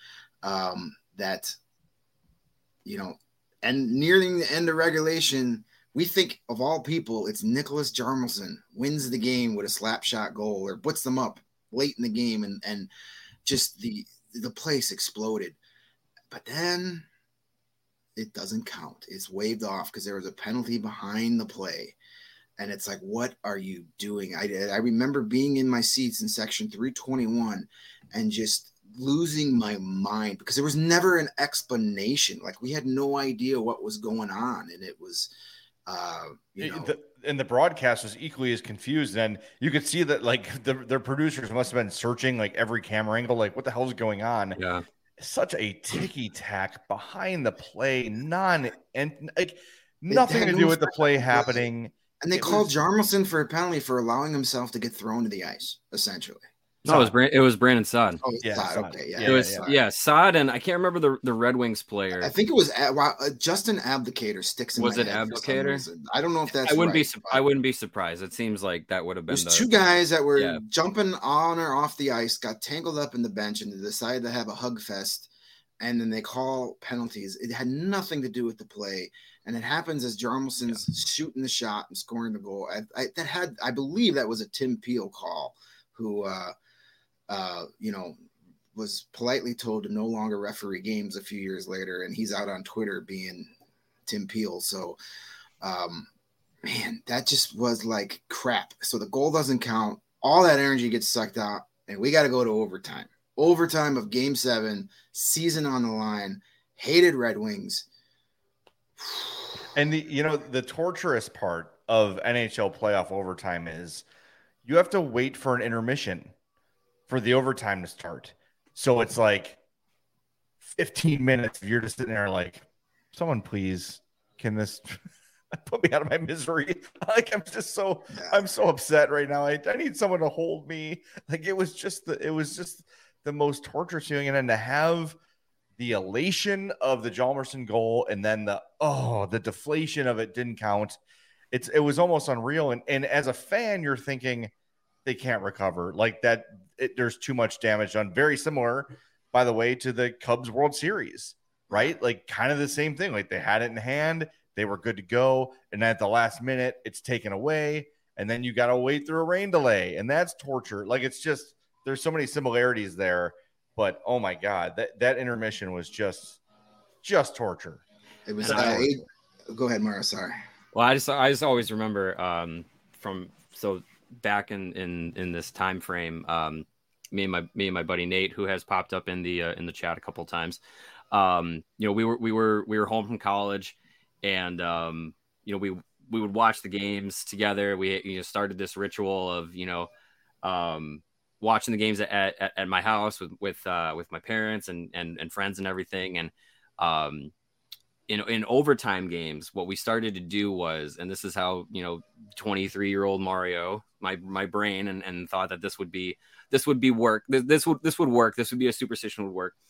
And nearing the end of regulation, we think of all people, it's Nicholas Hjalmarsson wins the game with a slap shot goal or puts them up late in the game, and just the place exploded. But then it doesn't count. It's waved off because there was a penalty behind the play. And it's like, what are you doing? I remember being in my seats in section 321 and just losing my mind because there was never an explanation. Like, we had no idea what was going on. And it was, and the broadcast was equally as confused. And you could see that, like, their producers must have been searching, like, every camera angle, like, what the hell is going on? Yeah. Such a ticky-tack behind the play, nothing to do with the play happening. And they called Hjalmarsson for a penalty for allowing himself to get thrown to the ice, essentially. No, it was Brandon Saad. Oh, yeah, Saad. Okay, yeah. It was Saad, and I can't remember the Red Wings player. I think it was Justin Abdicator sticks in my head. Abdicator? I don't know if that's I wouldn't be surprised. It seems like that would have been two guys that were jumping on or off the ice, got tangled up in the bench, and they decided to have a hug fest, and then they call penalties. It had nothing to do with the play, and it happens as Jarmelson's shooting the shot and scoring the goal. I believe that was a Tim Peel call, who was politely told to no longer referee games a few years later, and he's out on Twitter being Tim Peel. So, man, that just was like crap. So the goal doesn't count. All that energy gets sucked out, and we got to go to overtime. Overtime of Game 7, season on the line, hated Red Wings. And the torturous part of NHL playoff overtime is you have to wait for an intermission for the overtime to start. So it's like 15 minutes. You're just sitting there like, someone please, can this put me out of my misery? Like, I'm so upset right now. I need someone to hold me. Like, it was just the most torturous feeling. And then to have the elation of the Hjalmarsson goal and then the deflation of it didn't count. It was almost unreal. And as a fan, you're thinking they can't recover like that. There's too much damage done. Very similar, by the way, to the Cubs World Series, right? Like kind of the same thing. Like they had it in hand, they were good to go, and then at the last minute, it's taken away, and then you got to wait through a rain delay, and that's torture. Like it's just there's so many similarities there, but oh my god, that intermission was just torture. It was. Go ahead, Mara. Sorry. Well, I just always remember so back in this time frame, me and my buddy Nate, who has popped up in the chat a couple of times, we were home from college, and we would watch the games together. We started this ritual of watching the games at my house with my parents and friends and everything, and in overtime games, what we started to do was, and this is how 23-year-old Mario, my brain, and thought that this would work. This would work. This would be a superstition would work.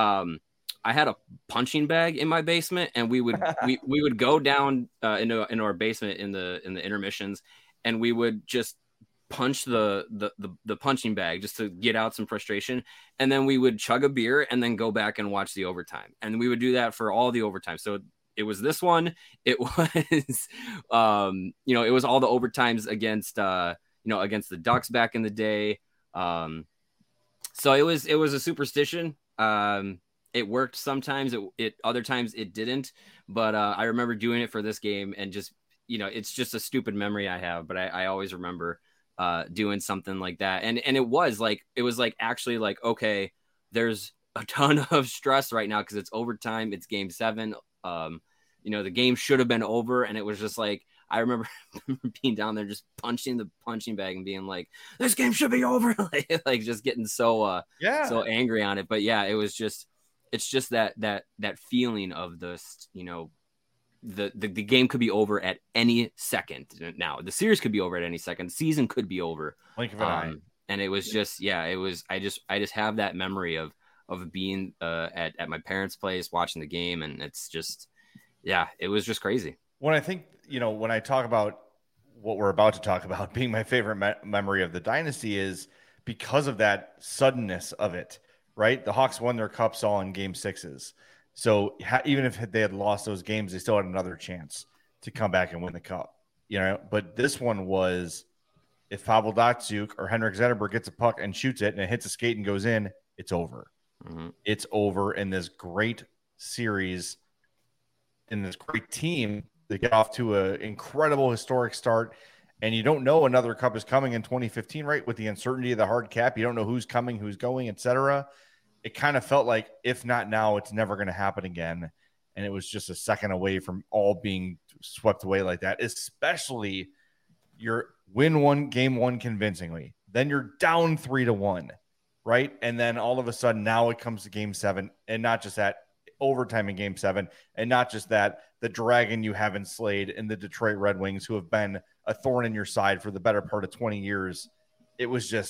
I had a punching bag in my basement, and we would we would go down into our basement in the intermissions, and we would just punch the punching bag just to get out some frustration, and then we would chug a beer and then go back and watch the overtime, and we would do that for all the overtime. So it was this one, it was it was all the overtimes against against the Ducks back in the day. So it was a superstition. It worked sometimes, it other times it didn't, but I remember doing it for this game, and just it's just a stupid memory I have, but I always remember doing something like that. And it was like actually like, okay, there's a ton of stress right now because it's overtime, it's Game 7. The game should have been over, and it was just like I remember being down there just punching the punching bag and being like, this game should be over. like just getting so angry on it. But yeah, it's just that feeling of this, the game could be over at any second. Now the series could be over at any second. The season could be over. And it was just, I just have that memory of being at my parents' place watching the game, and it's just, it was just crazy. When I think, when I talk about what we're about to talk about being my favorite memory of the dynasty is because of that suddenness of it, right? The Hawks won their cups all in Game 6s. So even if they had lost those games, they still had another chance to come back and win the cup, But this one was, if Pavel Datsyuk or Henrik Zetterberg gets a puck and shoots it and it hits a skate and goes in, it's over. Mm-hmm. It's over in this great series, in this great team. They get off to an incredible historic start, and you don't know another cup is coming in 2015, right? With the uncertainty of the hard cap, you don't know who's coming, who's going, etc. It kind of felt like, if not now, it's never going to happen again. And it was just a second away from all being swept away like that, especially you're win game 1 convincingly. Then you're down 3-1, right? And then all of a sudden now it comes to Game 7, and not just that, overtime in Game 7, and not just that, the dragon you haven't slayed in the Detroit Red Wings, who have been a thorn in your side for the better part of 20 years. It was just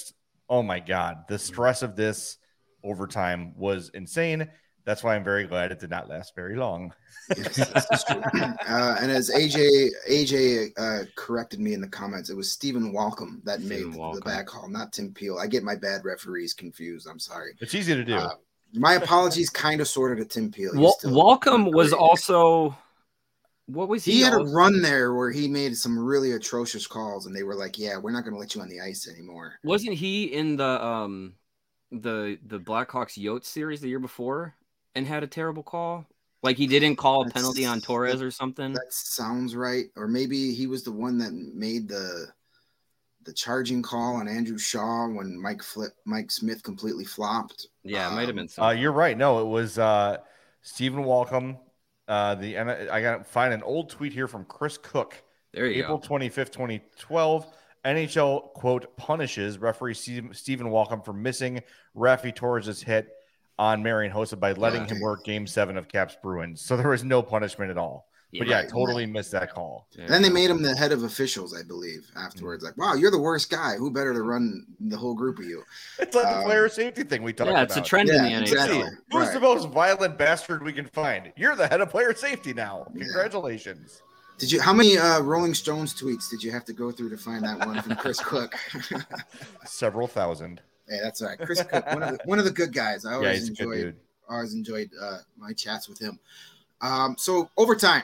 Oh my God. The stress of this overtime was insane. That's why I'm very glad it did not last very long. Yes, this is true. And as AJ corrected me in the comments, it was Stephen Walcom that made the back call, not Tim Peel. I get my bad referees confused. I'm sorry. It's easy to do. My apologies, kind of, sort of, to Tim Peel. Walcom was also. What was he had a run there where he made some really atrocious calls, and they were like, "Yeah, we're not going to let you on the ice anymore." Wasn't he in the Blackhawks Yotes series the year before and had a terrible call? Like he didn't call a penalty on Torres or something? That sounds right. Or maybe he was the one that made the charging call on Andrew Shaw when Mike Smith completely flopped. Yeah, it might have been something. You're right. No, it was Stephen Walcom. I got to find an old tweet here from Chris Cook. There you April 25th, 2012. NHL, quote, punishes referee Stephen Walcom for missing Rafi Torres' hit on Marian Hossa by letting him work Game 7 of Caps Bruins. So there was no punishment at all. But I totally missed that call. Yeah. Then they made him the head of officials, I believe, afterwards. Like, wow, you're the worst guy. Who better to run the whole group of you? It's like the player safety thing we talked about. Yeah, it's a trend in the NHL. Exactly. Who's the most violent bastard we can find? You're the head of player safety now. Congratulations. Did you? How many Rolling Stones tweets did you have to go through to find that one from Chris Cook? Several thousand. Hey, that's all right. Chris Cook, one of the good guys. I always he's a good dude. enjoyed my chats with him. So overtime.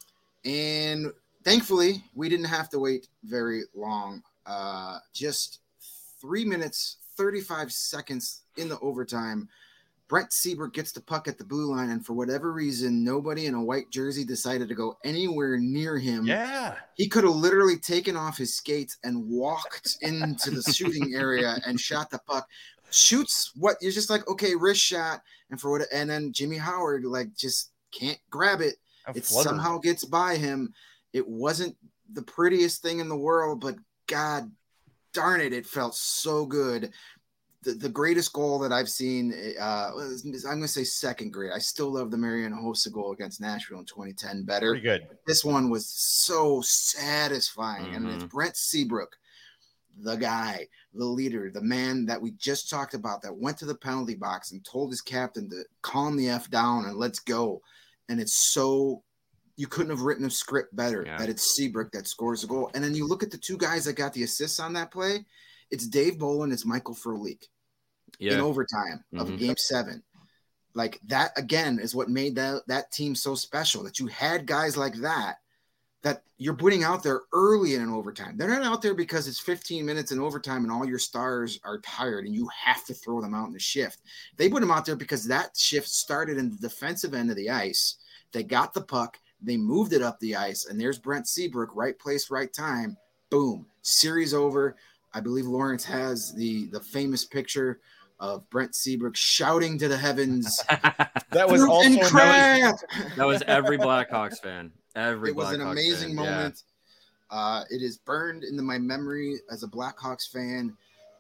And thankfully, we didn't have to wait very long. Just 3 minutes, 35 seconds in the overtime. Brent Seabrook gets the puck at the blue line, and for whatever reason, nobody in a white jersey decided to go anywhere near him. Yeah. He could have literally taken off his skates and walked into the shooting area and shot the puck. Shoots what you're just like, okay, wrist shot, and then Jimmy Howard just can't grab it. It somehow gets by him. It wasn't the prettiest thing in the world, but God darn it, it felt so good. The greatest goal that I've seen, I'm going to say second grade. I still love the Marian Hossa goal against Nashville in 2010 better. Pretty good. This one was so satisfying. Mm-hmm. And it's Brent Seabrook, the guy, the leader, the man that we just talked about that went to the penalty box and told his captain to calm the F down and let's go. And it's so you couldn't have written a script better that it's Seabrook that scores the goal. And then you look at the two guys that got the assists on that play. It's Dave Bolin, it's Michael Frolik in overtime of Game 7. Like that, again, is what made that team so special, that you had guys like that you're putting out there early in an overtime. They're not out there because it's 15 minutes in overtime and all your stars are tired and you have to throw them out in the shift. They put them out there because that shift started in the defensive end of the ice. They got the puck. They moved it up the ice. And there's Brent Seabrook, right place, right time. Boom. Series over. I believe Lawrence has the famous picture of Brent Seabrook shouting to the heavens. That was also that was every Blackhawks fan. It was an amazing moment. Yeah. It is burned into my memory as a Blackhawks fan.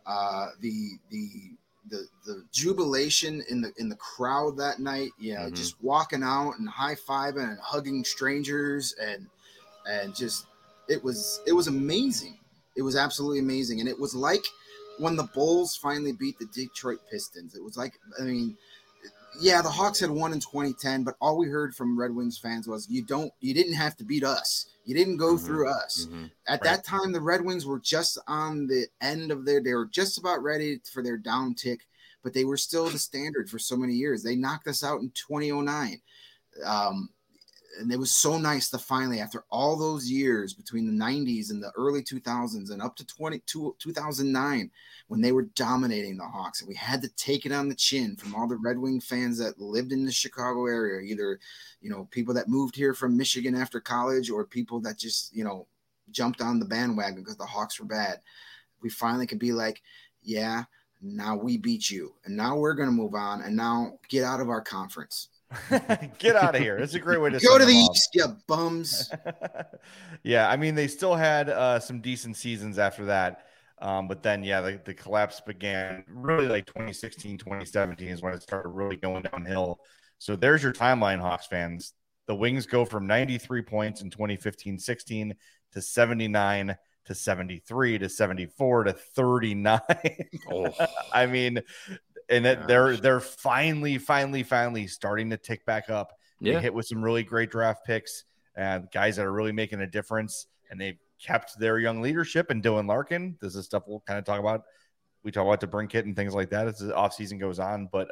The jubilation in the crowd that night, just walking out and high-fiving and hugging strangers and just it was amazing. It was absolutely amazing. And it was like when the Bulls finally beat the Detroit Pistons. It was like, the Hawks had won in 2010, but all we heard from Red Wings fans was you didn't have to beat us. You didn't go through us. At that time, the Red Wings were just on the end of they were just about ready for their down tick, but they were still the standard for so many years. They knocked us out in 2009. And it was so nice to finally, after all those years between the 90s and the early 2000s and up to 2009, when they were dominating the Hawks, and we had to take it on the chin from all the Red Wing fans that lived in the Chicago area, either, people that moved here from Michigan after college or people that just, jumped on the bandwagon because the Hawks were bad. We finally could be like, yeah, now we beat you. And now we're going to move on and now get out of our conference. Get out of here. It's a great way to go to the East, you bums. Yeah, I mean, they still had some decent seasons after that. But then, the collapse began really like 2016, 2017 is when it started really going downhill. So there's your timeline, Hawks fans. The Wings go from 93 points in 2015-16 to 79 to to 73 to 74 to 39. Oh. I mean, and they're finally starting to tick back up. They hit with some really great draft picks and guys that are really making a difference, and they've kept their young leadership and Dylan Larkin. This is stuff we'll kind of talk about. We talk about DeBrincat and things like that as the offseason goes on, but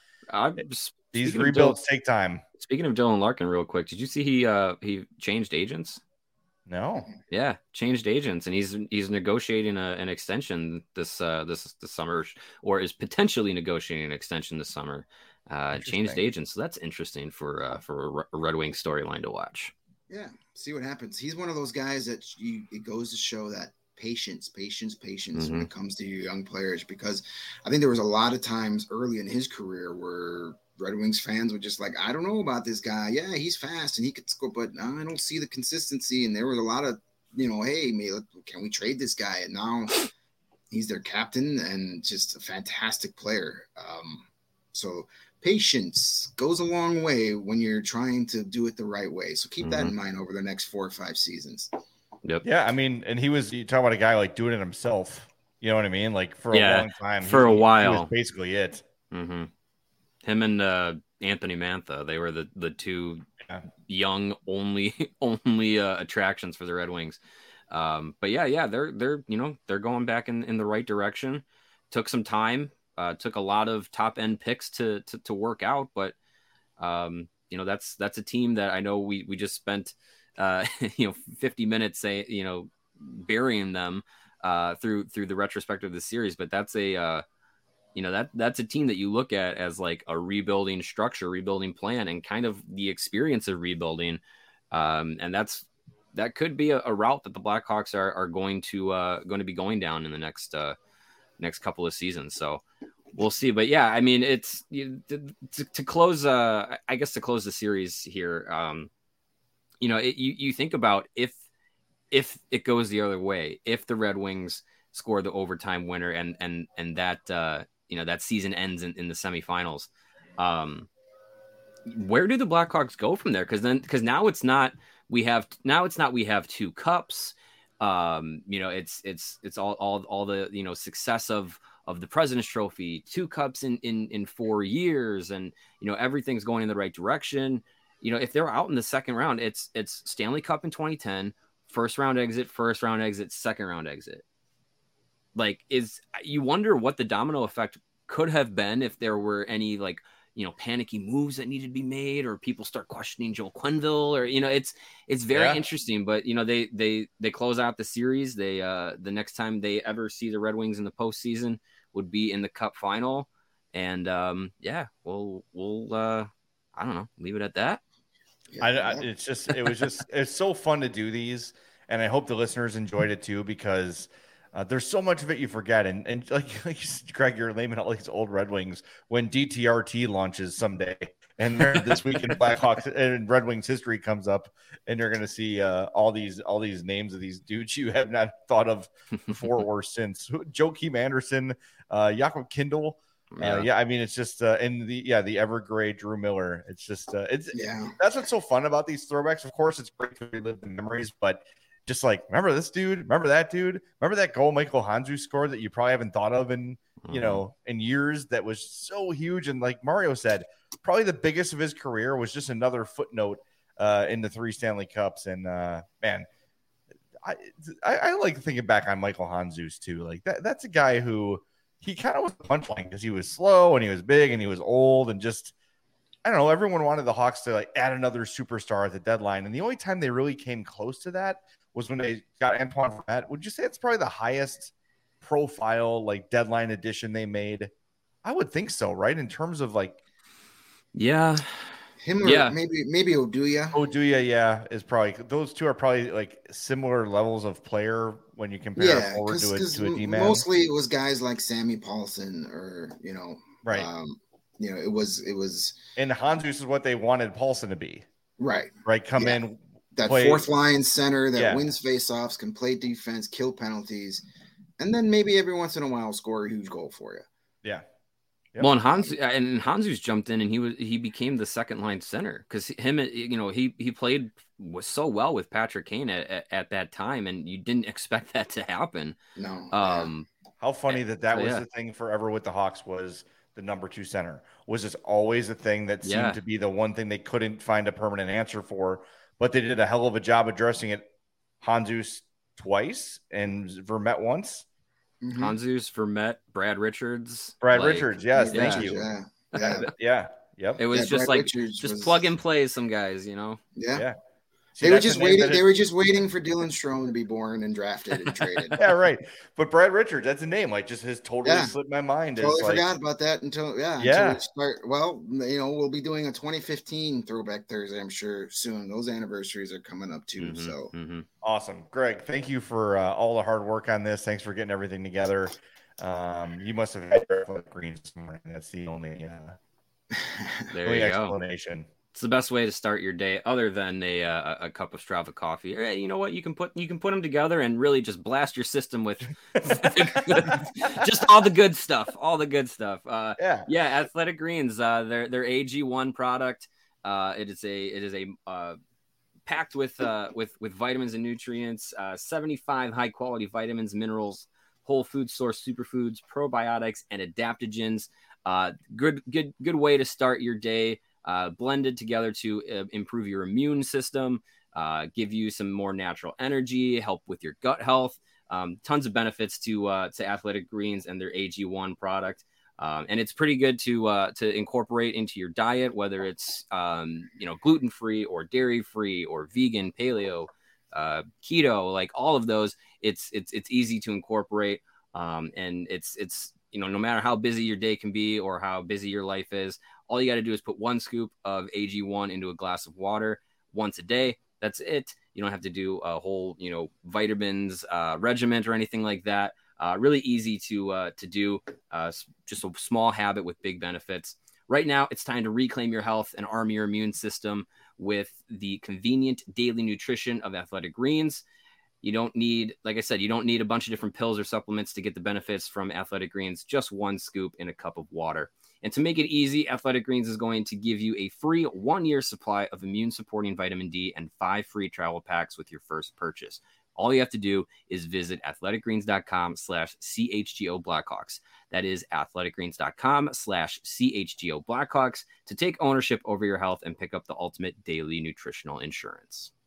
these rebuilds take time. Speaking of Dylan Larkin, real quick, did you see he changed agents? No. Yeah, changed agents, and he's negotiating an extension this summer, or is potentially negotiating an extension this summer. Changed agents, so that's interesting for a Red Wings storyline to watch. Yeah, see what happens. He's one of those guys that it goes to show that patience when it comes to your young players, because I think there was a lot of times early in his career where Red Wings fans were just like, I don't know about this guy. Yeah, he's fast and he could score, but I don't see the consistency. And there was a lot of, hey, can we trade this guy? And now he's their captain and just a fantastic player. So patience goes a long way when you're trying to do it the right way. So keep that in mind over the next 4 or 5 seasons. Yep. Yeah, I mean, and you talk about a guy like doing it himself. You know what I mean? Like for a long time, for a while, he was basically it. Mm-hmm. Him and Anthony Mantha, they were the two young only attractions for the Red Wings. But yeah, they're going back in the right direction. Took some time, took a lot of top end picks to work out, but that's a team that I know we just spent 50 minutes burying them through the retrospective of the series, but that's that's a team that you look at as like a rebuilding structure, rebuilding plan, and kind of the experience of rebuilding. And that could be a route that the Blackhawks are going to be going down in the next couple of seasons. So we'll see. But yeah, I mean, it's to close, I guess to close the series here. You think about if it goes the other way, if the Red Wings score the overtime winner and that that season ends in the semifinals, where do the Blackhawks go from there? Because now it's not we have 2 cups. It's all the success of the President's Trophy, 2 cups in 4 years, and everything's going in the right direction. If they're out in the second round, it's Stanley Cup in 2010, first round exit, second round exit. Like, you wonder what the domino effect could have been if there were any panicky moves that needed to be made, or people start questioning Joel Quenneville, or it's very interesting. But they close out the series. They the next time they ever see the Red Wings in the postseason would be in the Cup final, and we'll I don't know, leave it at that. It's so fun to do these, and I hope the listeners enjoyed it too, because there's so much of it you forget, and like Greg, you're naming all these old Red Wings. When DTRT launches someday, and this week in Blackhawks and Red Wings history comes up, and you're going to see all these names of these dudes you have not thought of before or since. Joakim Anderson, Jakob Kindl. I mean, it's just the Evergrey Drew Miller. It's just that's what's so fun about these throwbacks. Of course, it's great to relive the memories, but just like, remember this dude, remember that dude, remember that goal Michael Handzus scored that you probably haven't thought of in years, that was so huge. And like Mario said, probably the biggest of his career, was just another footnote in the 3 Stanley Cups. And man, I like thinking back on Michael Handzus too. Like that's a guy who, he kind of was the punchline because he was slow and he was big and he was old, and just, I don't know, everyone wanted the Hawks to like add another superstar at the deadline. And the only time they really came close to that was when they got Antoine Vermette. Would you say it's probably the highest profile like deadline addition they made? I would think so, right? In terms of like, him or maybe Oduya. Oduya, is probably, those two are probably like similar levels of player when you compare a forward to a D-man. Mostly it was guys like Sammy Paulson, or right. It was, and Handzus is what they wanted Paulson to be. Right. Come in, that fourth line center that wins faceoffs, can play defense, kill penalties, and then maybe every once in a while score a huge goal for you. Yeah. Yep. Well, and Hanzu's jumped in and he became the second line center because he played was so well with Patrick Kane at that time, and you didn't expect that to happen. No. How funny that was the thing forever with the Hawks was the number 2 center was just always a thing that seemed to be the one thing they couldn't find a permanent answer for, but they did a hell of a job addressing it. Handzus twice and Vermette once. Mm-hmm. Handzus, Vermette, Brad Richards. Richards, yes, thank you. Yeah. Yep. It was just Brad Richards plug and play some guys, Yeah. See, they were just waiting. They were just waiting for Dylan Strome to be born and drafted and traded. Yeah, right. But Brad Richards, that's a name. Like, just has totally slipped my mind. Totally forgot about that until we start. Well, we'll be doing a 2015 Throwback Thursday, I'm sure, soon. Those anniversaries are coming up too. Mm-hmm, so awesome, Greg. Thank you for all the hard work on this. Thanks for getting everything together. You must have had your greens this morning. That's the only explanation. It's the best way to start your day, other than a cup of Strava coffee. Hey, you know what? You can put them together and really just blast your system with just all the good stuff. All the good stuff. Athletic Greens. Their AG1 product. It is a packed with vitamins and nutrients. 75 high quality vitamins, minerals, whole food source superfoods, probiotics, and adaptogens. Good way to start your day. Blended together to improve your immune system, give you some more natural energy, help with your gut health. Tons of benefits to Athletic Greens and their AG1 product. And it's pretty good to incorporate into your diet, whether it's gluten-free or dairy-free or vegan, paleo, keto, like all of those. It's easy to incorporate. And it's no matter how busy your day can be or how busy your life is, all you got to do is put 1 scoop of AG1 into a glass of water once a day. That's it. You don't have to do a whole, vitamins regiment or anything like that. Really easy to do. Just a small habit with big benefits. Right now, it's time to reclaim your health and arm your immune system with the convenient daily nutrition of Athletic Greens. You don't need, like I said, a bunch of different pills or supplements to get the benefits from Athletic Greens. Just 1 scoop in a cup of water. And to make it easy, Athletic Greens is going to give you a free 1-year supply of immune-supporting vitamin D and 5 free travel packs with your first purchase. All you have to do is visit athleticgreens.com/CHGO Blackhawks. That is athleticgreens.com/CHGO Blackhawks to take ownership over your health and pick up the ultimate daily nutritional insurance.